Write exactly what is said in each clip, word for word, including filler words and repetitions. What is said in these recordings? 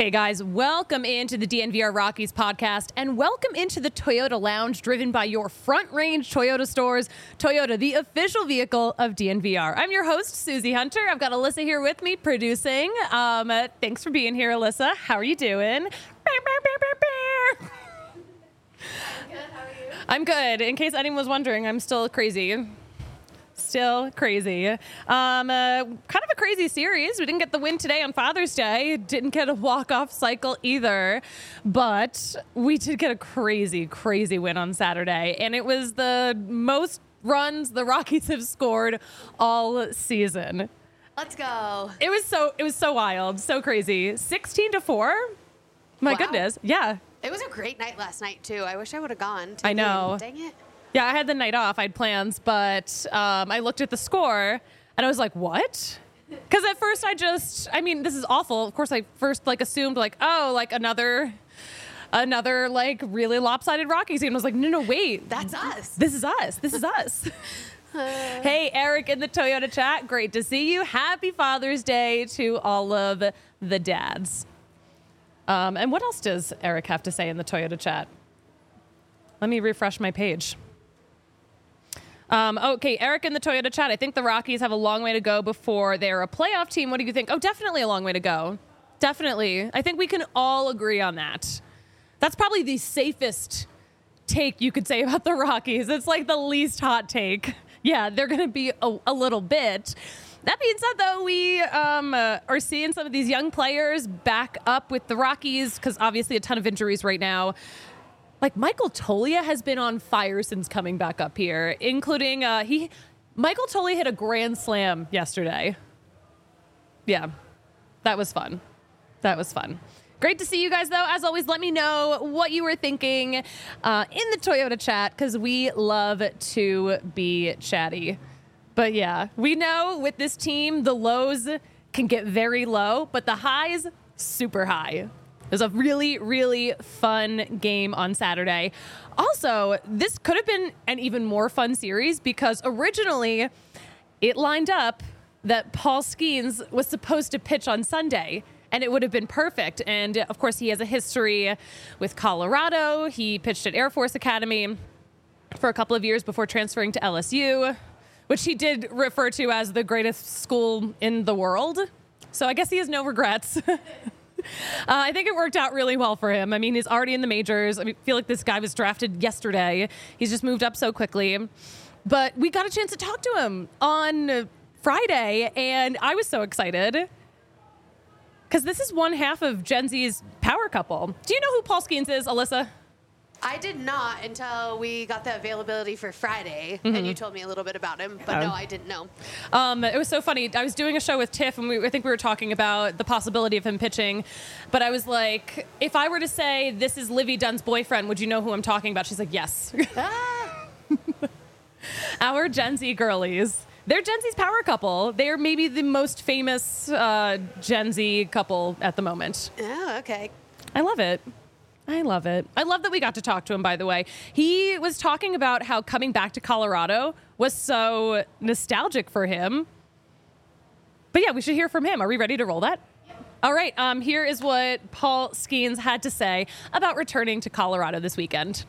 Hey guys, welcome into the D N V R Rockies podcast and welcome into the Toyota Lounge driven by your Front Range Toyota stores. Toyota, the official vehicle of D N V R. I'm your host, Susie Hunter. I've got Alyssa here with me producing. Um, uh, thanks for being here, Alyssa. How are you doing? I'm good. How are you? I'm good. In case anyone was wondering, I'm still crazy. Still crazy. Um, uh, kind of a crazy series. We didn't get the win today on Father's Day. Didn't get a walk-off cycle either. But we did get a crazy, crazy win on Saturday. And it was the most runs the Rockies have scored all season. Let's go. It was so, it was so wild. So crazy. sixteen to four. My Wow. goodness. Yeah. It was a great night last night, too. I wish I would have gone. To I know. the game. Dang it. Yeah, I had the night off. I had plans, but um, I looked at the score and I was like, what? Because at first I just, I mean, this is awful. Of course, I first like assumed like, oh, like another, another like really lopsided Rockies game. I was like, no, no, wait. That's us. This is us. This is us. Hey, Eric in the Toyota chat. Great to see you. Happy Father's Day to all of the dads. Um, and what else does Eric have to say in the Toyota chat? Let me refresh my page. Um, okay, Eric in the Toyota chat. I think the Rockies have a long way to go before they're a playoff team. What do you think? Oh, definitely a long way to go. Definitely. I think we can all agree on that. That's probably the safest take you could say about the Rockies. It's like the least hot take. Yeah, they're going to be a, a little bit. That being said, though, we um, uh, are seeing some of these young players back up with the Rockies because obviously a ton of injuries right now. Like Michael Toglia has been on fire since coming back up here, including uh, he. Michael Toglia hit a grand slam yesterday. Yeah, that was fun. That was fun. Great to see you guys, though. As always, let me know what you were thinking uh, in the Toyota chat because we love to be chatty. But yeah, we know with this team, the lows can get very low, but the highs, super high. It was a really, really fun game on Saturday. Also, this could have been an even more fun series because originally it lined up that Paul Skeens was supposed to pitch on Sunday, and it would have been perfect. And, of course, he has a history with Colorado. He pitched at Air Force Academy for a couple of years before transferring to L S U, which he did refer to as the greatest school in the world. So I guess he has no regrets. Uh, I think it worked out really well for him. I mean, he's already in the majors. I mean, I feel like this guy was drafted yesterday. He's just moved up so quickly. But we got a chance to talk to him on Friday, and I was so excited because this is one half of Gen Z's power couple. Do you know who Paul Skeens is, Alyssa? I did not until we got the availability for Friday, Mm-hmm. and you told me a little bit about him, but Oh. no, I didn't know. Um, it was so funny. I was doing a show with Tiff, and we, I think we were talking about the possibility of him pitching. But I was like, if I were to say this is Livy Dunn's boyfriend, would you know who I'm talking about? She's like, yes. Ah, Our Gen Z girlies. They're Gen Z's power couple. They're maybe the most famous uh, Gen Z couple at the moment. oh, okay. I love it. I love it. I love that we got to talk to him, by the way. He was talking about how coming back to Colorado was so nostalgic for him. But yeah, we should hear from him. Are we ready to roll that? Yep. All right. Um, here is what Paul Skeens had to say about returning to Colorado this weekend.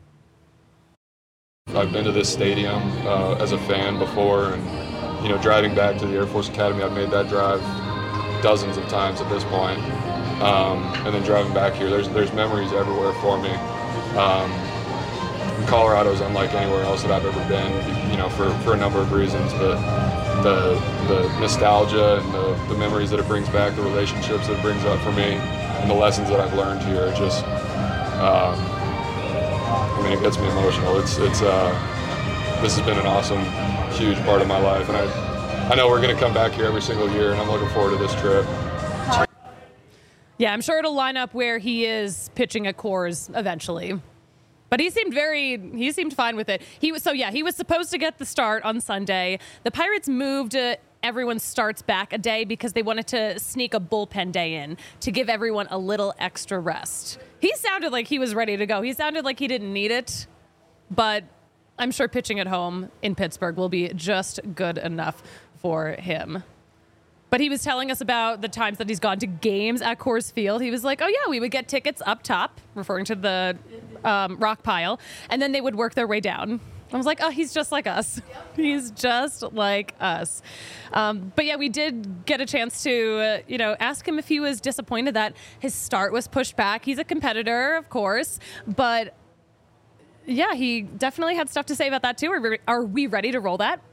I've been to this stadium uh, as a fan before, and you know, driving back to the Air Force Academy, I've made that drive dozens of times at this point. Um, and then driving back here, there's there's memories everywhere for me. Um, Colorado is unlike anywhere else that I've ever been, you know, for, for a number of reasons. But the the nostalgia and the, the memories that it brings back, the relationships that it brings up for me, and the lessons that I've learned here, it just, um, I mean, it gets me emotional. It's it's uh, this has been an awesome, huge part of my life, and I I know we're going to come back here every single year, and I'm looking forward to this trip. Yeah, I'm sure it'll line up where he is pitching at Coors eventually. But he seemed very, he seemed fine with it. He was, so yeah, he was supposed to get the start on Sunday. The Pirates moved uh, everyone's starts back a day because they wanted to sneak a bullpen day in to give everyone a little extra rest. He sounded like he was ready to go. He sounded like he didn't need it, but I'm sure pitching at home in Pittsburgh will be just good enough for him. But he was telling us about the times that he's gone to games at Coors Field. He was like, oh, yeah, we would get tickets up top, referring to the um, rock pile, and then they would work their way down. I was like, oh, he's just like us. Yep. He's just like us. Um, but yeah, we did get a chance to, uh, you know, ask him if he was disappointed that his start was pushed back. He's a competitor, of course, but yeah, he definitely had stuff to say about that too. Are we, are we ready to roll that?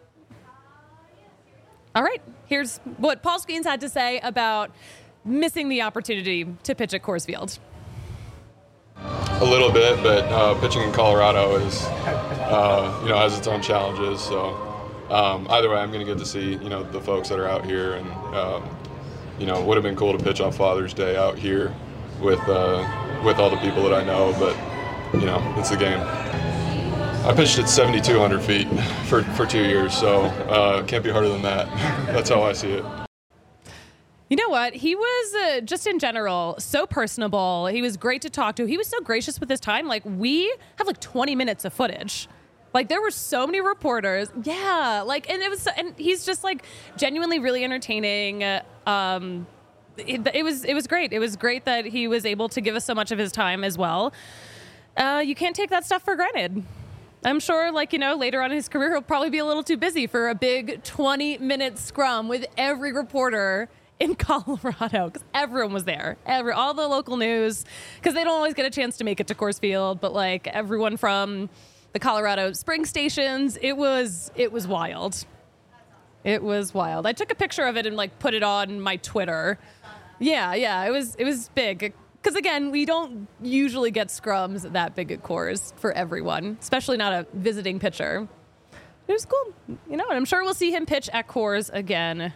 All right, here's what Paul Skeens had to say about missing the opportunity to pitch at Coors Field. A little bit, but uh, pitching in Colorado is, uh, you know, has its own challenges. So um, either way, I'm going to get to see, you know, the folks that are out here, and um, you know, it would have been cool to pitch on Father's Day out here with uh, with all the people that I know, but you know, it's the game. I pitched at seventy-two hundred feet for, for two years, so uh, can't be harder than that. That's how I see it. You know what? He was uh, just in general so personable. He was great to talk to. He was so gracious with his time. Like, we have like twenty minutes of footage. Like, there were so many reporters. Yeah. Like, and it was, and he's just like genuinely really entertaining. Uh, um, it, it was, it was great. It was great that he was able to give us so much of his time as well. Uh, you can't take that stuff for granted. I'm sure, like, you know, later on in his career, he'll probably be a little too busy for a big twenty minute scrum with every reporter in Colorado, because everyone was there. Every all the local news, because they don't always get a chance to make it to Coors Field, but like everyone from the Colorado Spring stations, it was it was wild. It was wild. I took a picture of it and like put it on my Twitter. Yeah, yeah, it was it was big. Because, again, we don't usually get scrums that big at Coors for everyone, especially not a visiting pitcher. It was cool. You know, and I'm sure we'll see him pitch at Coors again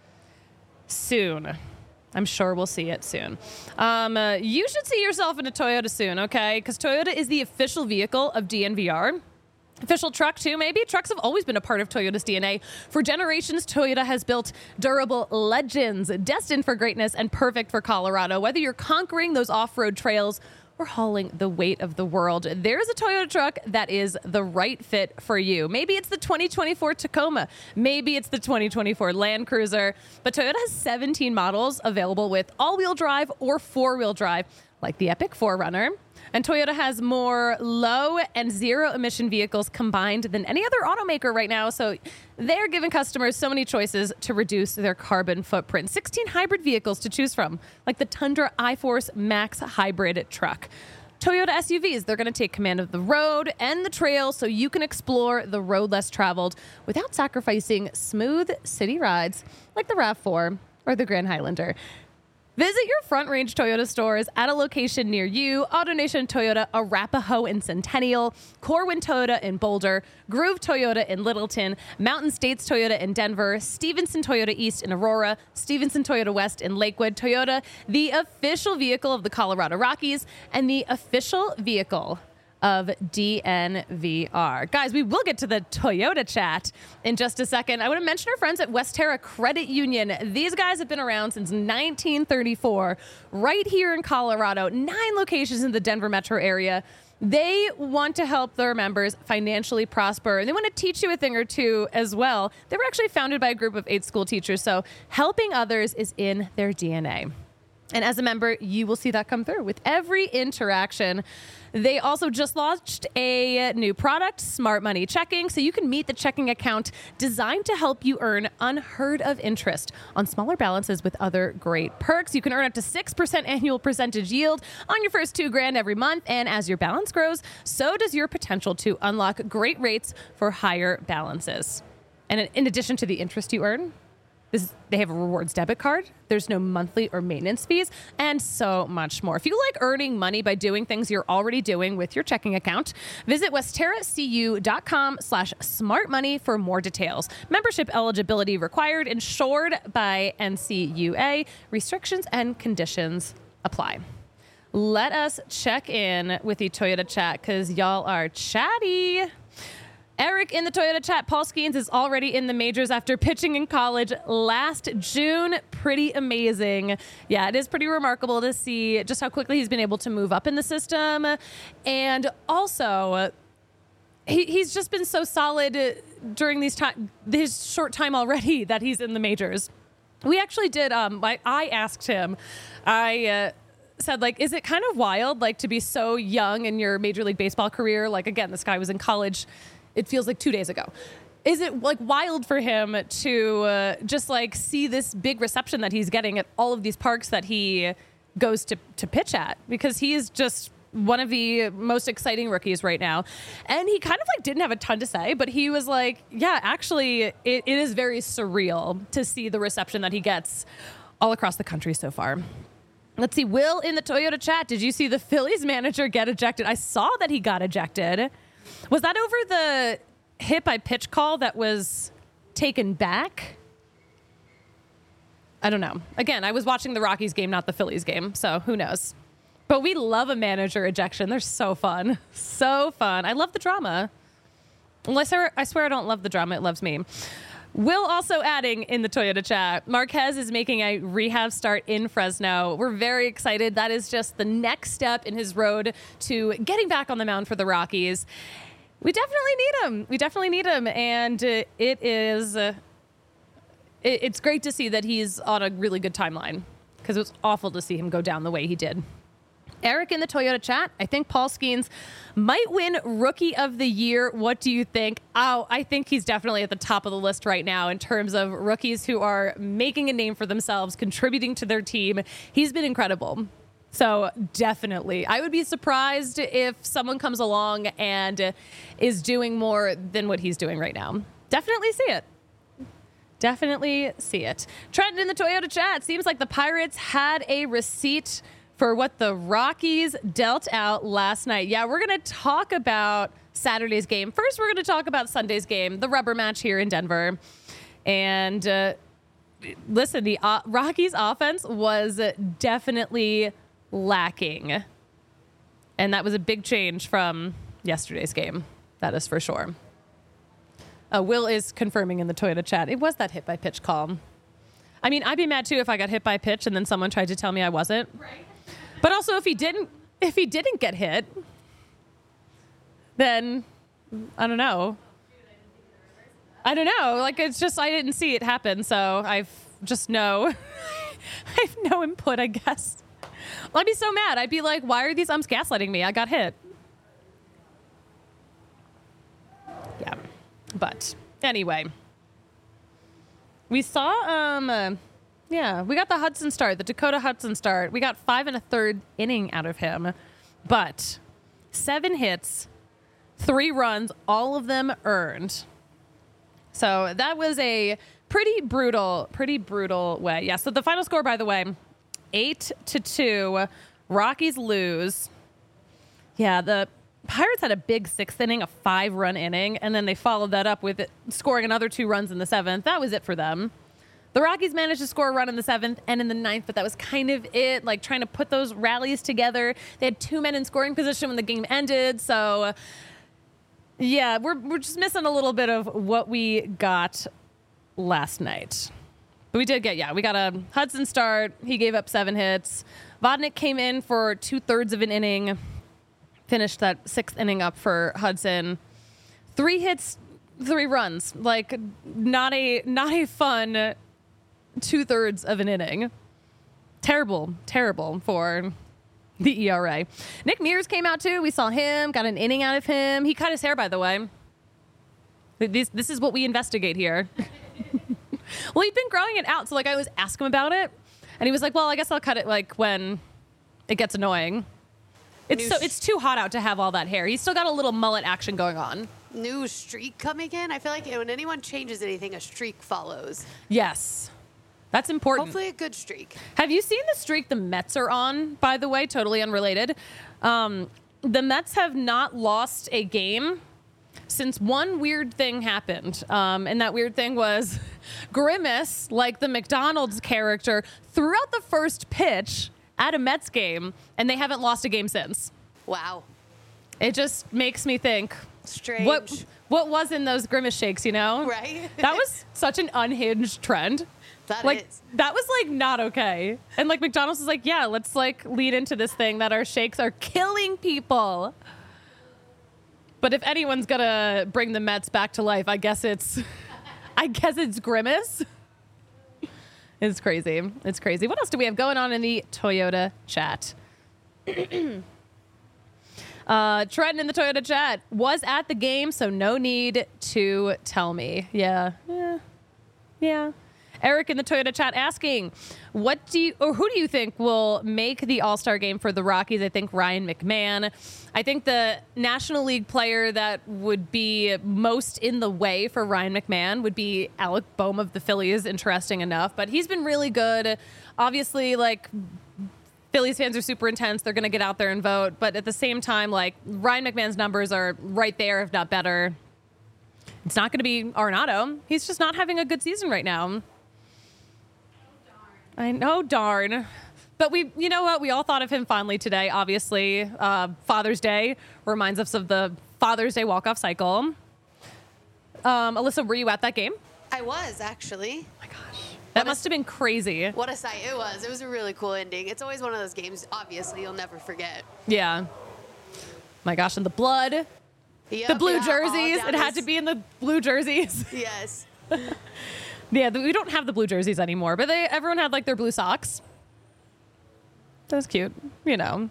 soon. I'm sure we'll see it soon. Um, uh, you should see yourself in a Toyota soon, okay? Because Toyota is the official vehicle of D N V R. Official truck, too, maybe? Trucks have always been a part of Toyota's D N A. For generations, Toyota has built durable legends, destined for greatness and perfect for Colorado. Whether you're conquering those off-road trails or hauling the weight of the world, there's a Toyota truck that is the right fit for you. Maybe it's the twenty twenty-four Tacoma. Maybe it's the twenty twenty-four Land Cruiser. But Toyota has seventeen models available with all-wheel drive or four-wheel drive, like the Epic four runner. And Toyota has more low and zero emission vehicles combined than any other automaker right now. So they're giving customers so many choices to reduce their carbon footprint. sixteen hybrid vehicles to choose from, like the Tundra iForce Max hybrid truck. Toyota S U Vs, they're going to take command of the road and the trail so you can explore the road less traveled without sacrificing smooth city rides like the RAV four or the Grand Highlander. Visit your Front Range Toyota stores at a location near you. AutoNation Toyota, Arapahoe in Centennial, Corwin Toyota in Boulder, Groove Toyota in Littleton, Mountain States Toyota in Denver, Stevenson Toyota East in Aurora, Stevenson Toyota West in Lakewood. Toyota, the official vehicle of the Colorado Rockies and the official vehicle of D N V R. Guys, we will get to the Toyota chat in just a second. I want to mention our friends at Westterra Credit Union. These guys have been around since nineteen thirty-four, right here in Colorado, nine locations in the Denver metro area. They want to help their members financially prosper, and they want to teach you a thing or two as well. They were actually founded by a group of eight school teachers, so helping others is in their D N A. And as a member, you will see that come through with every interaction. They also just launched a new product, Smart Money Checking, so you can meet the checking account designed to help you earn unheard of interest on smaller balances with other great perks. You can earn up to six percent annual percentage yield on your first two grand every month. And as your balance grows, so does your potential to unlock great rates for higher balances. And in addition to the interest you earn, This, they have a rewards debit card. There's no monthly or maintenance fees, and so much more. If you like earning money by doing things you're already doing with your checking account, visit westterracu.com slash smart money for more details. Membership eligibility required, insured by N C U A. Restrictions and conditions apply. Let us check in with the Toyota chat because y'all are chatty. Eric in the Toyota chat, Paul Skeens is already in the majors after pitching in college last June. Pretty amazing. Yeah, it is pretty remarkable to see just how quickly he's been able to move up in the system. And also, he, he's just been so solid during these time, this short time already that he's in the majors. We actually did. Um, I, I asked him. I uh, said, like, is it kind of wild, like, to be so young in your Major League Baseball career? Like, again, this guy was in college. It feels like two days ago. Is it like wild for him to uh, just like see this big reception that he's getting at all of these parks that he goes to, to pitch at? Because he is just one of the most exciting rookies right now. And he kind of like didn't have a ton to say, but he was like, yeah, actually, it, it is very surreal to see the reception that he gets all across the country so far. Let's see. Will in the Toyota chat, did you see the Phillies manager get ejected? I saw that he got ejected. Was that over the hit by pitch call that was taken back? I don't know. Again, I was watching the Rockies game, not the Phillies game, so who knows? But we love a manager ejection. They're so fun. So fun. I love the drama. Unless I, I swear I don't love the drama. It loves me. Will also adding in the Toyota chat, Marquez is making a rehab start in Fresno. We're very excited. That is just the next step in his road to getting back on the mound for the Rockies. We definitely need him. We definitely need him. And uh, it is, uh, it, it's great to see that he's on a really good timeline, because it was awful to see him go down the way he did. Eric in the Toyota chat, I think Paul Skeens might win Rookie of the Year. What do you think? Oh, I think he's definitely at the top of the list right now in terms of rookies who are making a name for themselves, contributing to their team. He's been incredible. So definitely, I would be surprised if someone comes along and is doing more than what he's doing right now. Definitely see it. Definitely see it. Trent in the Toyota chat, seems like the Pirates had a receipt for what the Rockies dealt out last night. Yeah, we're going to talk about Saturday's game. First, we're going to talk about Sunday's game, the rubber match here in Denver. And uh, listen, the uh, Rockies offense was definitely lacking. And that was a big change from yesterday's game. That is for sure. Uh, Will is confirming in the Toyota chat. It was that hit by pitch call. I mean, I'd be mad too if I got hit by pitch and then someone tried to tell me I wasn't. Right. But also, if he didn't, if he didn't get hit, then I don't know. I don't know. Like, it's just I didn't see it happen, so I've just no. I have no input, I guess. Well, I'd be so mad. I'd be like, why are these umps gaslighting me? I got hit. Yeah. But anyway, we saw, um, uh, yeah, we got the Hudson start, the Dakota Hudson start. We got five and a third inning out of him, but seven hits, three runs, all of them earned. So that was a pretty brutal, pretty brutal way. Yeah. So the final score, by the way, eight to two, Rockies lose. Yeah. The Pirates had a big sixth inning, a five run inning, and then they followed that up with it, scoring another two runs in the seventh. That was it for them. The Rockies managed to score a run in the seventh and in the ninth, but that was kind of it, like trying to put those rallies together. They had two men in scoring position when the game ended. So yeah, we're, we're just missing a little bit of what we got last night. But we did get, yeah, we got a Hudson start. He gave up seven hits. Vodnik came in for two thirds of an inning. Finished that sixth inning up for Hudson. Three hits, three runs. Like, not a not a fun two thirds of an inning. Terrible, terrible for the E R A. Nick Mears came out too. We saw him, got an inning out of him. He cut his hair, by the way. This this is what we investigate here. Well, he'd been growing it out, so like I always ask him about it, and he was like, "Well, I guess I'll cut it like when it gets annoying." It's so it's too hot out to have all that hair. He's still got a little mullet action going on. New streak coming in. I feel like when anyone changes anything, a streak follows. Yes. That's important. Hopefully a good streak. Have you seen the streak the Mets are on, by the way? Totally unrelated. Um, the Mets have not lost a game since one weird thing happened. Um, and that weird thing was Grimace, like the McDonald's character, threw out the first pitch at a Mets game, and they haven't lost a game since. Wow. It just makes me think, strange. What what was in those Grimace shakes, you know? Right. That was such an unhinged trend. That like, is. That was like not okay. And like McDonald's is like, yeah, let's like lead into this thing that our shakes are killing people. But if anyone's gonna bring the Mets back to life, I guess it's I guess it's Grimace. It's crazy. It's crazy. What else do we have going on in the Toyota chat? uh, Trenton in the Toyota chat was at the game, so no need to tell me. Yeah. Yeah. Yeah. Eric in the Toyota chat asking, what do you, or who do you think will make the All-Star game for the Rockies? I think Ryan McMahon. I think the National League player that would be most in the way for Ryan McMahon would be Alec Boehm of the Phillies. Interesting enough, but he's been really good. Obviously, like, Phillies fans are super intense. They're going to get out there and vote. But at the same time, like, Ryan McMahon's numbers are right there, if not better. It's not going to be Arenado. He's just not having a good season right now. I know, darn. But we, you know what? We all thought of him fondly today, obviously. Uh, Father's Day reminds us of the Father's Day walk-off cycle. Um, Alyssa, were you at that game? I was, actually. Oh my gosh. That must have been crazy. What a sight. It was. It was a really cool ending. It's always one of those games, obviously, you'll never forget. Yeah. My gosh, and the blood. Yep, the blue yeah, jerseys. It had to be in the blue jerseys. Yes. Yeah, we don't have the blue jerseys anymore, but they everyone had like their blue socks. That was cute, you know.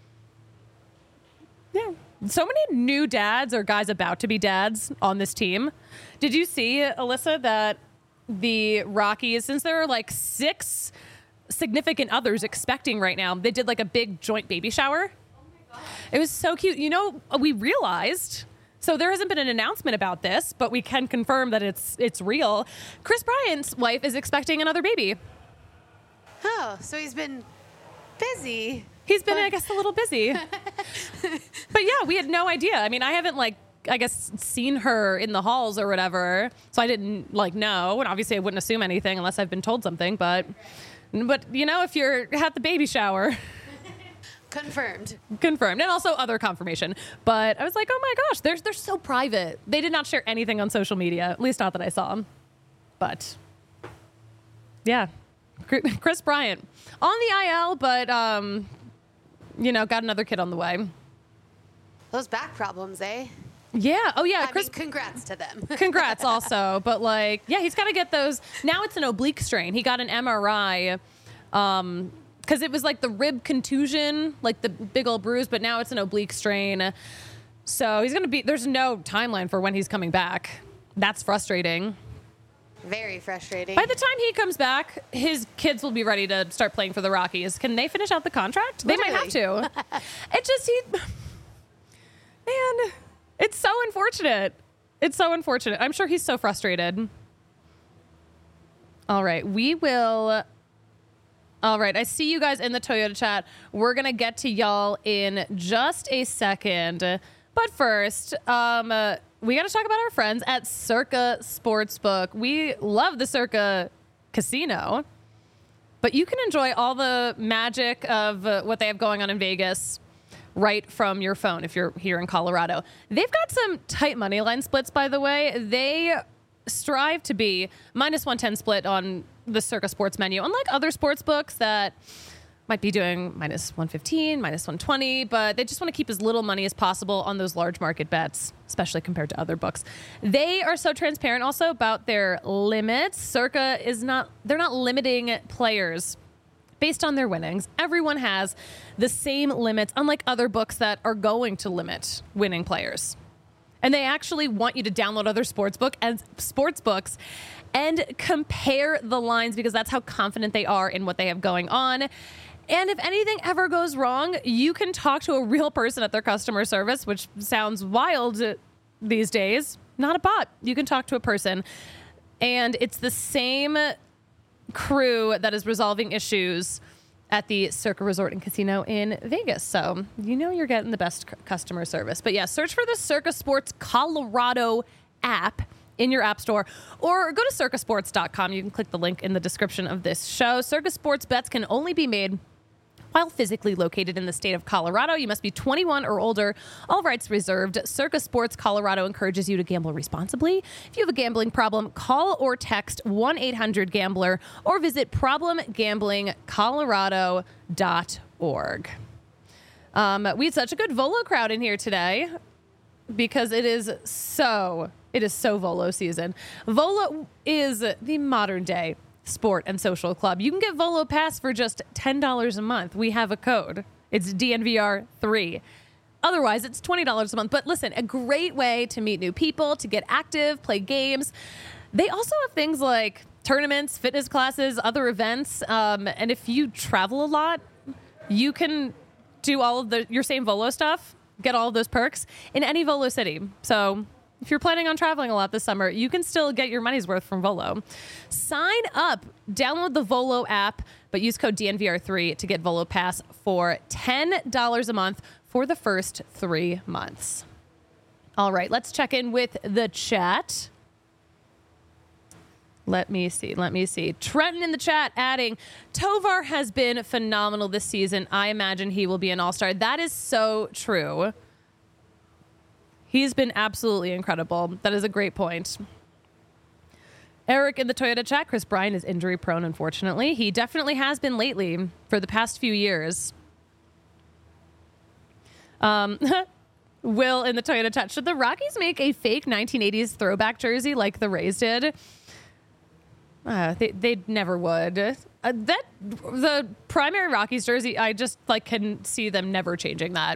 Yeah. So many new dads or guys about to be dads on this team. Did you see, Alyssa, that the Rockies, since there are like six significant others expecting right now, they did like a big joint baby shower? Oh my God. It was so cute. You know, we realized... So there hasn't been an announcement about this, but we can confirm that it's it's real. Chris Bryant's wife is expecting another baby. Oh, so he's been busy. He's been, I guess, a little busy. But yeah, we had no idea. I mean, I haven't, like, I guess, seen her in the halls or whatever, so I didn't, like, know. And obviously I wouldn't assume anything unless I've been told something. But, but you know, if you're at the baby shower... Confirmed. Confirmed. And also other confirmation. But I was like, oh my gosh, they're, they're so private. They did not share anything on social media, at least not that I saw. But yeah, Chris Bryant on the I L, but, um, you know, got another kid on the way. Those back problems, eh? Yeah. Oh, yeah. I Chris, mean, congrats to them. Congrats also. But like, yeah, he's got to get those. Now it's an oblique strain. He got an M R I. Um, Because it was like the rib contusion, like the big old bruise, but now it's an oblique strain. So he's going to be, there's no timeline for when he's coming back. That's frustrating. Very frustrating. By the time he comes back, his kids will be ready to start playing for the Rockies. Can they finish out the contract? Literally. They might have to. It just, he, man, it's so unfortunate. It's so unfortunate. I'm sure he's so frustrated. All right, we will... All right, I see you guys in the Toyota chat. We're going to get to y'all in just a second. But first, um, uh, we got to talk about our friends at Circa Sportsbook. We love the Circa Casino, but you can enjoy all the magic of uh, what they have going on in Vegas right from your phone if you're here in Colorado. They've got some tight money line splits, by the way. They strive to be minus one ten split on the Circa Sports menu, unlike other sports books that might be doing minus one fifteen, minus one twenty, but they just want to keep as little money as possible on those large market bets, especially compared to other books. They are so transparent also about their limits. Circa is not, they're not limiting players based on their winnings. Everyone has the same limits, unlike other books that are going to limit winning players. And they actually want you to download other sportsbook and sports books and compare the lines because that's how confident they are in what they have going on. And if anything ever goes wrong, you can talk to a real person at their customer service, which sounds wild these days. Not a bot. You can talk to a person. And it's the same crew that is resolving issues at the Circa Resort and Casino in Vegas. So you know you're getting the best c- customer service. But yeah, search for the Circa Sports Colorado app in your app store or go to circa sports dot com. You can click the link in the description of this show. Circa Sports bets can only be made while physically located in the state of Colorado. You must be twenty-one or older. All rights reserved. Circa Sports Colorado encourages you to gamble responsibly. If you have a gambling problem, call or text one eight hundred gambler or visit problem gambling colorado dot org. Um, we had such a good Volo crowd in here today because it is so, it is so Volo season. Volo is the modern day Sport and Social Club. You can get Volo Pass for just ten dollars a month. We have a code. It's D N V R three. Otherwise, it's twenty dollars a month. But listen, a great way to meet new people, to get active, play games. They also have things like tournaments, fitness classes, other events. Um, and if you travel a lot, you can do all of the your same Volo stuff, get all of those perks in any Volo city. So if you're planning on traveling a lot this summer, you can still get your money's worth from Volo. Sign up, download the Volo app, but use code D N V R three to get Volo Pass for ten dollars a month for the first three months. All right, let's check in with the chat. Let me see. Let me see. Trenton in the chat adding, Tovar has been phenomenal this season. I imagine he will be an all-star. That is so true. He's been absolutely incredible. That is a great point. Eric in the Toyota chat, Chris Bryant is injury prone, unfortunately. He definitely has been lately for the past few years. Um, Will in the Toyota chat, should the Rockies make a fake nineteen eighties throwback jersey like the Rays did? Uh, they they never would. Uh, that the primary Rockies jersey, I just like can see them never changing that.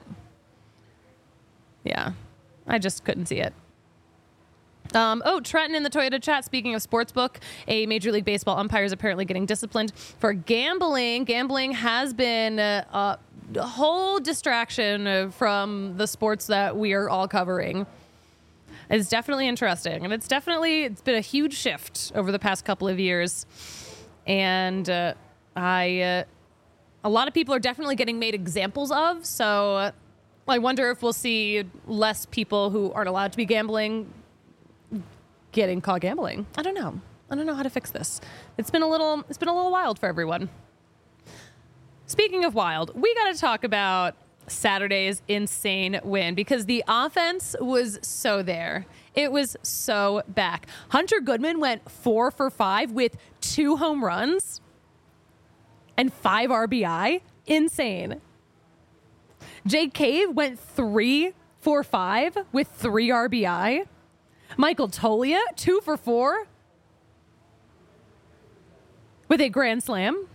Yeah, I just couldn't see it. Um, oh, Trenton in the Toyota chat. Speaking of sportsbook, a Major League Baseball umpire is apparently getting disciplined for gambling. Gambling has been uh, a whole distraction from the sports that we are all covering. It's definitely interesting, and it's definitely it's been a huge shift over the past couple of years. And uh, I, uh, a lot of people are definitely getting made examples of. So uh, I wonder if we'll see less people who aren't allowed to be gambling getting caught gambling. I don't know. I don't know how to fix this. It's been a little. It's been a little wild for everyone. Speaking of wild, we got to talk about Saturday's insane win because the offense was so there. It was so back. Hunter Goodman went four for five with two home runs and five R B I. Insane. Jake Cave went three for five with three R B I. Michael Toglia, two for four with a grand slam.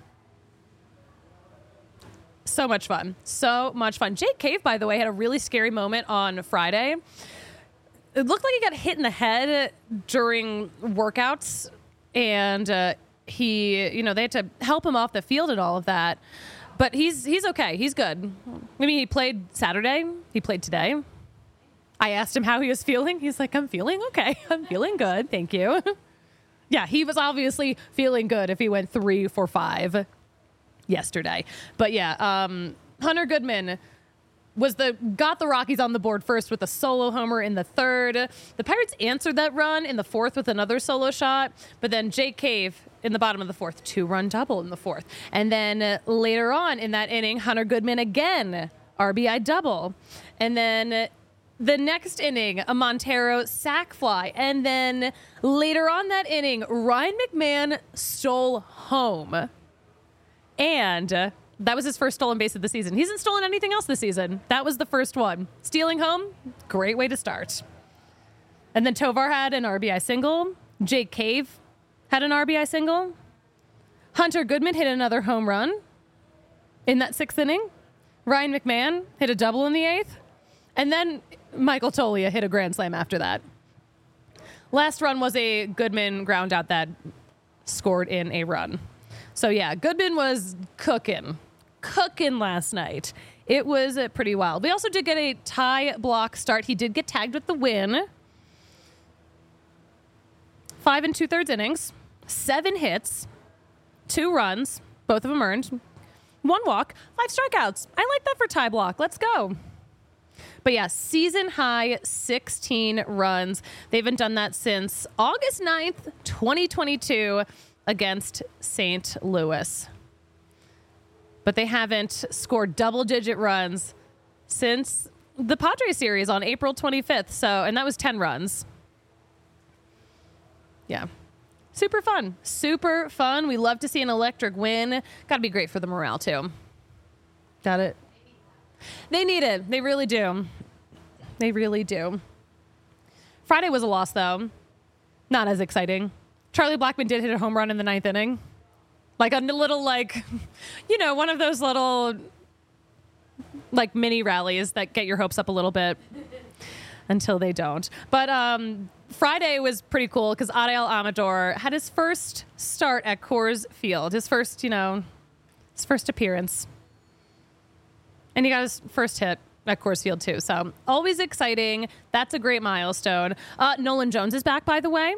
So much fun. So much fun. Jake Cave, by the way, had a really scary moment on Friday. It looked like he got hit in the head during workouts, and uh, he, you know, they had to help him off the field and all of that. But he's he's okay. He's good. I mean, he played Saturday. He played today. I asked him how he was feeling. He's like, I'm feeling okay. I'm feeling good. Thank you. Yeah, he was obviously feeling good if he went three for five yesterday. But yeah, um, Hunter Goodman was the got the Rockies on the board first with a solo homer in the third. The Pirates answered that run in the fourth with another solo shot, but then Jake Cave in the bottom of the fourth, two-run double in the fourth. And then uh, later on in that inning, Hunter Goodman again, R B I double. And then uh, the next inning, a Montero sac fly. And then later on that inning, Ryan McMahon stole home. And uh, that was his first stolen base of the season. He hasn't stolen anything else this season. That was the first one. Stealing home, great way to start. And then Tovar had an R B I single. Jake Cave had an R B I single. Hunter Goodman hit another home run in that sixth inning. Ryan McMahon hit a double in the eighth. And then Michael Toglia hit a grand slam after that. Last run was a Goodman ground out that scored in a run. So, yeah, Goodman was cooking, cooking last night. It was uh, pretty wild. We also did get a tie block start. He did get tagged with the win. Five and two-thirds innings, seven hits, two runs, both of them earned, one walk, five strikeouts. I like that for tie block. Let's go. But, yeah, season high sixteen runs. They haven't done that since August ninth, twenty twenty-two. Against Saint Louis. But they haven't scored double-digit runs since the Padres series on April twenty-fifth. So, and that was ten runs. Yeah. Super fun. Super fun. We love to see an electric win. Got to be great for the morale, too. Got it. They need it. They really do. They really do. Friday was a loss, though. Not as exciting. Charlie Blackmon did hit a home run in the ninth inning. Like a little, like, you know, one of those little, like, mini rallies that get your hopes up a little bit until they don't. But um, Friday was pretty cool because Adael Amador had his first start at Coors Field. His first, you know, his first appearance. And he got his first hit at Coors Field, too. So always exciting. That's a great milestone. Uh, Nolan Jones is back, by the way.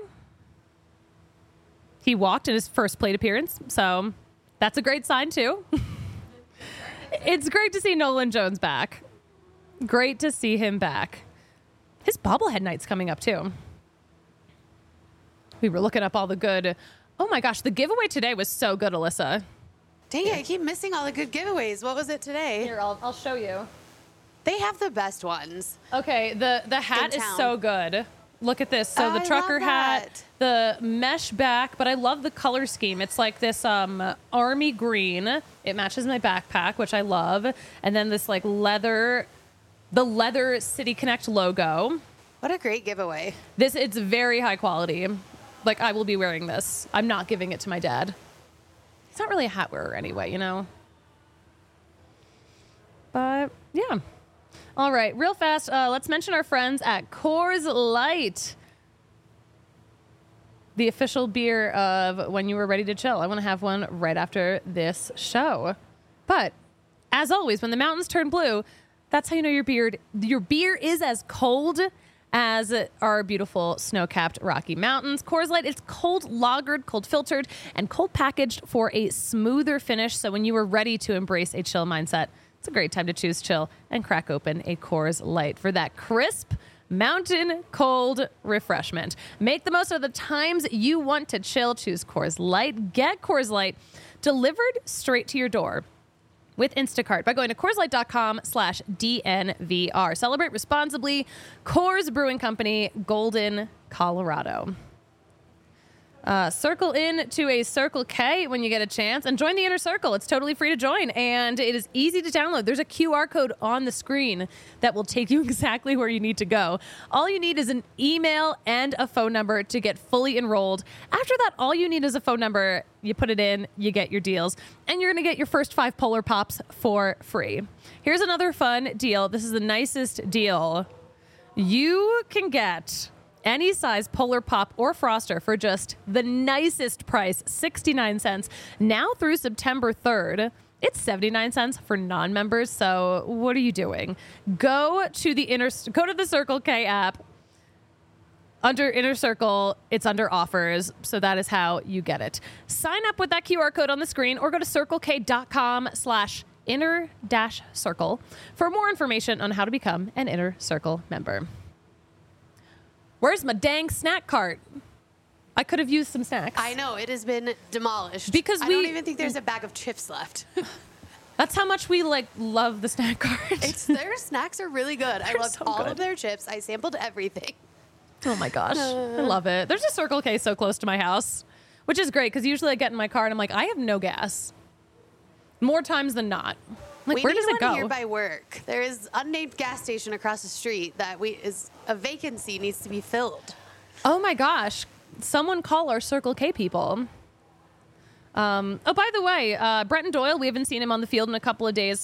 He walked in his first plate appearance, so that's a great sign, too. It's great to see Nolan Jones back. Great to see him back. His bobblehead night's coming up, too. We were looking up all the good... Oh, my gosh, the giveaway today was so good, Alyssa. Dang it, I keep missing all the good giveaways. What was it today? Here, I'll, I'll show you. They have the best ones. Okay, the, the hat is so good. Look at this. So Oh, the I trucker love hat, that. the mesh back, but I love the color scheme. It's like this um, army green. It matches my backpack, which I love. And then this like leather, the leather City Connect logo. What a great giveaway. This, it's very high quality. Like I will be wearing this. I'm not giving it to my dad. He's not really a hat wearer anyway, you know? But yeah. All right, real fast, uh, let's mention our friends at Coors Light, the official beer of When You Were Ready to Chill. I want to have one right after this show. But as always, when the mountains turn blue, that's how you know your beer, your beer is as cold as our beautiful snow-capped Rocky Mountains. Coors Light, it's cold lagered, cold filtered, and cold packaged for a smoother finish. So when you are ready to embrace a chill mindset, it's a great time to choose chill and crack open a Coors Light for that crisp, mountain cold refreshment. Make the most of the times you want to chill. Choose Coors Light. Get Coors Light delivered straight to your door with Instacart by going to CoorsLight.com slash DNVR. Celebrate responsibly. Coors Brewing Company, Golden, Colorado. Uh, circle in to a Circle K when you get a chance and join the Inner Circle. It's totally free to join and it is easy to download. There's a Q R code on the screen that will take you exactly where you need to go. All you need is an email and a phone number to get fully enrolled. After that, all you need is a phone number. You put it in, you get your deals, and you're going to get your first five Polar Pops for free. Here's another fun deal. This is the nicest deal. You can get any size Polar Pop or Froster for just the nicest price, sixty-nine cents. Now through September third, it's seventy-nine cents for non-members. So what are you doing? Go to the inner, go to the Circle K app. Under Inner Circle, it's under offers. So that is how you get it. Sign up with that Q R code on the screen or go to circlek.com slash inner dash circle for more information on how to become an Inner Circle member. Where's my dang snack cart? I could have used some snacks. I know, it has been demolished. Because I we- don't even think there's a bag of chips left. That's how much we like love the snack cart. It's their snacks are really good. I They're loved so all good. of their chips. I sampled everything. Oh my gosh. I love it. There's a Circle K so close to my house, which is great because usually I get in my car and I'm like, I have no gas. More times than not. Like, we where need does it one go? here by work. There is unnamed gas station across the street that we is a vacancy needs to be filled. Oh my gosh. Someone call our Circle K people. Um, oh, by the way, uh, Brenton Doyle, we haven't seen him on the field in a couple of days.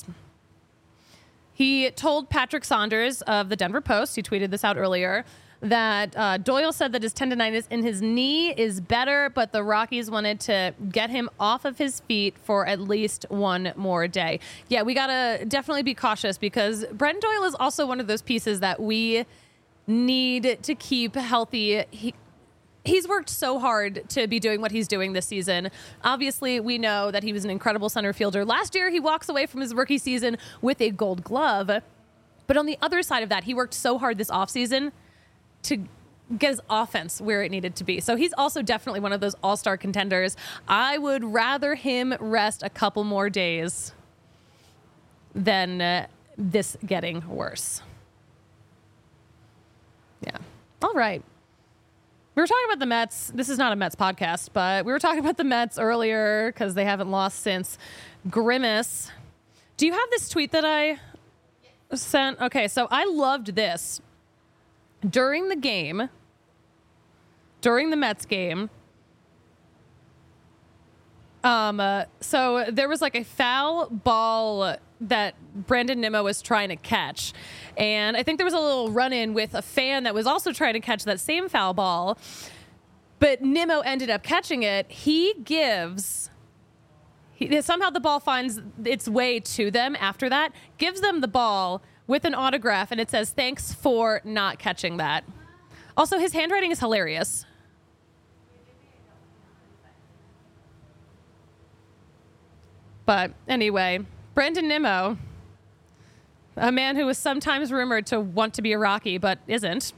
He told Patrick Saunders of the Denver Post, he tweeted this out earlier, that uh, Doyle said that his tendonitis in his knee is better, but the Rockies wanted to get him off of his feet for at least one more day. Yeah, we got to definitely be cautious because Brenton Doyle is also one of those pieces that we need to keep healthy. He, he's worked so hard to be doing what he's doing this season. Obviously, we know that he was an incredible center fielder. Last year, he walks away from his rookie season with a gold glove. But on the other side of that, he worked so hard this offseason to get his offense where it needed to be. So he's also definitely one of those all-star contenders. I would rather him rest a couple more days than uh, this getting worse. Yeah. All right. We were talking about the Mets. This is not a Mets podcast, but we were talking about the Mets earlier because they haven't lost since Grimace. Do you have this tweet that I sent? Okay, so I loved this. During the game, during the Mets game, Um, uh, so there was like a foul ball that Brandon Nimmo was trying to catch. And I think there was a little run-in with a fan that was also trying to catch that same foul ball. But Nimmo ended up catching it. He gives... He, somehow the ball finds its way to them after that, gives them the ball with an autograph, and it says, "Thanks for not catching that." Also, his handwriting is hilarious. But anyway, Brandon Nimmo, a man who is sometimes rumored to want to be a Rocky, but isn't.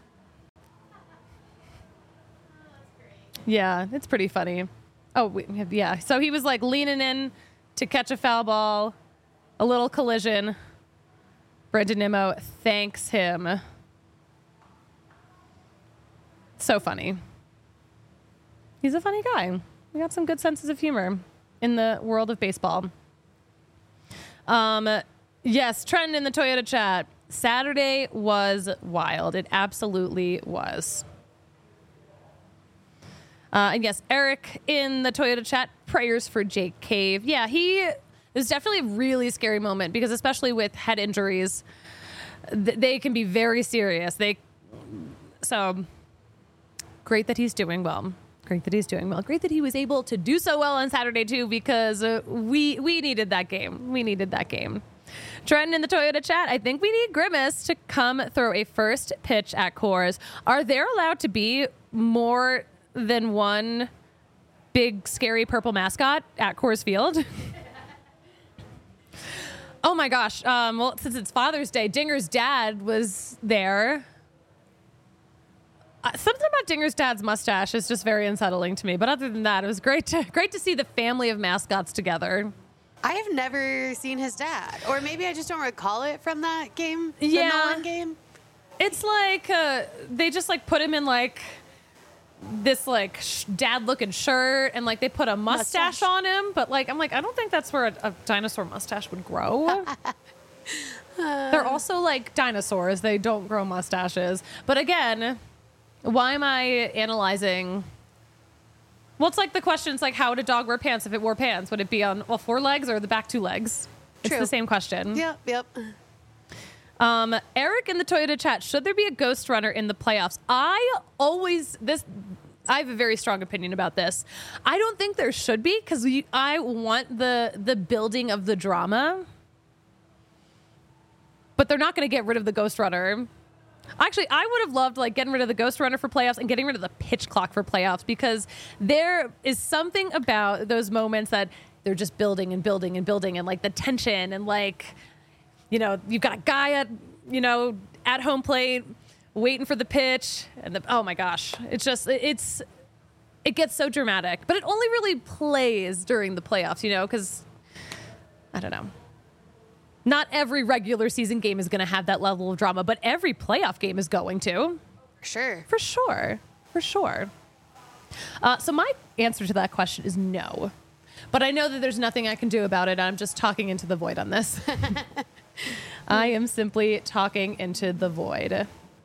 Yeah, it's pretty funny. Oh, we have, yeah. So he was like leaning in to catch a foul ball, a little collision. Brandon Nimmo thanks him. So funny. He's a funny guy. We got some good senses of humor in the world of baseball. Um, yes, Trent in the Toyota chat. Saturday was wild. It absolutely was. Uh, and yes, Eric in the Toyota chat, prayers for Jake Cave. Yeah, he, it was definitely a really scary moment because especially with head injuries, th- they can be very serious. They, so great that he's doing well. Great that he's doing well. Great that he was able to do so well on Saturday too, because uh, we, we needed that game. We needed that game. Trenton in the Toyota chat, I think we need Grimace to come throw a first pitch at Coors. Are there allowed to be more than one big scary purple mascot at Coors Field? Oh my gosh. Um, well, since it's Father's Day, Dinger's dad was there. Uh, something about Dinger's dad's mustache is just very unsettling to me. But other than that, it was great to great to see the family of mascots together. I have never seen his dad, or maybe I just don't recall it from that game. Yeah. The Nolan game. It's like uh, they just like put him in like this like sh- dad looking shirt and like they put a mustache, mustache on him, but like I'm like I don't think that's where a, a dinosaur mustache would grow. uh, They're also like dinosaurs. They don't grow mustaches. But again, why am I analyzing? Well, it's like the question, it's like how would a dog wear pants if it wore pants? Would it be on all four legs or the back two legs? It's True. the same question. Yep, yep. Um, Eric in the Toyota chat, should there be a ghost runner in the playoffs? I always, this, I have a very strong opinion about this. I don't think there should be because I want the the building of the drama. But they're not going to get rid of the ghost runner. Actually, I would have loved like getting rid of the ghost runner for playoffs and getting rid of the pitch clock for playoffs because there is something about those moments that they're just building and building and building and like the tension and like, you know, you've got a guy at, you know, at home plate waiting for the pitch and the, oh my gosh, it's just, it's, it gets so dramatic, but it only really plays during the playoffs, you know, because I don't know. Not every regular season game is going to have that level of drama, but every playoff game is going to. Sure. For sure. For sure. Uh, so my answer to that question is no. But I know that there's nothing I can do about it. I'm just talking into the void on this. I am simply talking into the void.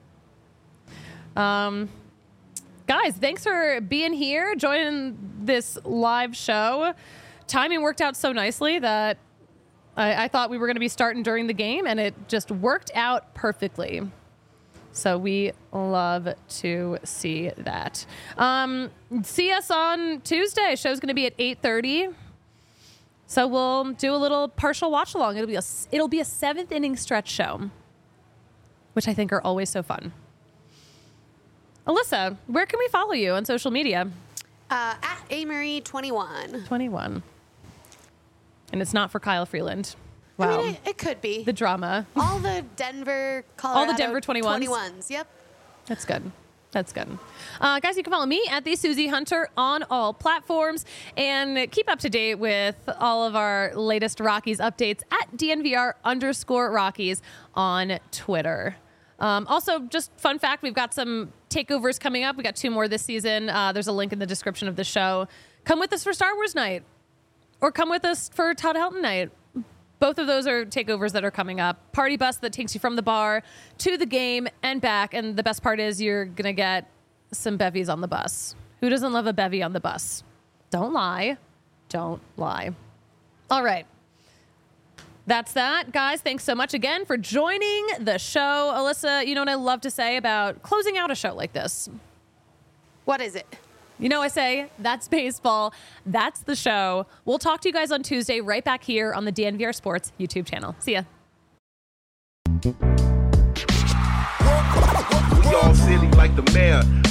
Um, guys, thanks for being here, joining this live show. Timing worked out so nicely that I, I thought we were going to be starting during the game, and it just worked out perfectly. So we love to see that. Um, see us on Tuesday. Show's going to be at eight thirty. So we'll do a little partial watch along. It'll be a it'll be a seventh inning stretch show, which I think are always so fun. Alyssa, where can we follow you on social media? Uh, at Amory twenty-one. twenty-one. And it's not for Kyle Freeland. Wow. I mean, it, it could be. The drama. All the Denver, Colorado. All the Denver twenty-ones. twenty-ones, yep. That's good. That's good. Uh, guys, you can follow me at the Susie Hunter on all platforms and keep up to date with all of our latest Rockies updates at D N V R underscore Rockies on Twitter. Um, also, just fun fact, we've got some takeovers coming up. We got two more this season. Uh, there's a link in the description of the show. Come with us for Star Wars night or come with us for Todd Helton night. Both of those are takeovers that are coming up. Party bus that takes you from the bar to the game and back. And the best part is you're going to get some bevies on the bus. Who doesn't love a bevy on the bus? Don't lie. don't lie. All right. That's that, guys. Thanks so much again for joining the show. Alyssa, you know what I love to say about closing out a show like this? What is it? You know, I say, that's baseball. That's the show. We'll talk to you guys on Tuesday right back here on the D N V R Sports YouTube channel. See ya. We all silly like the mayor.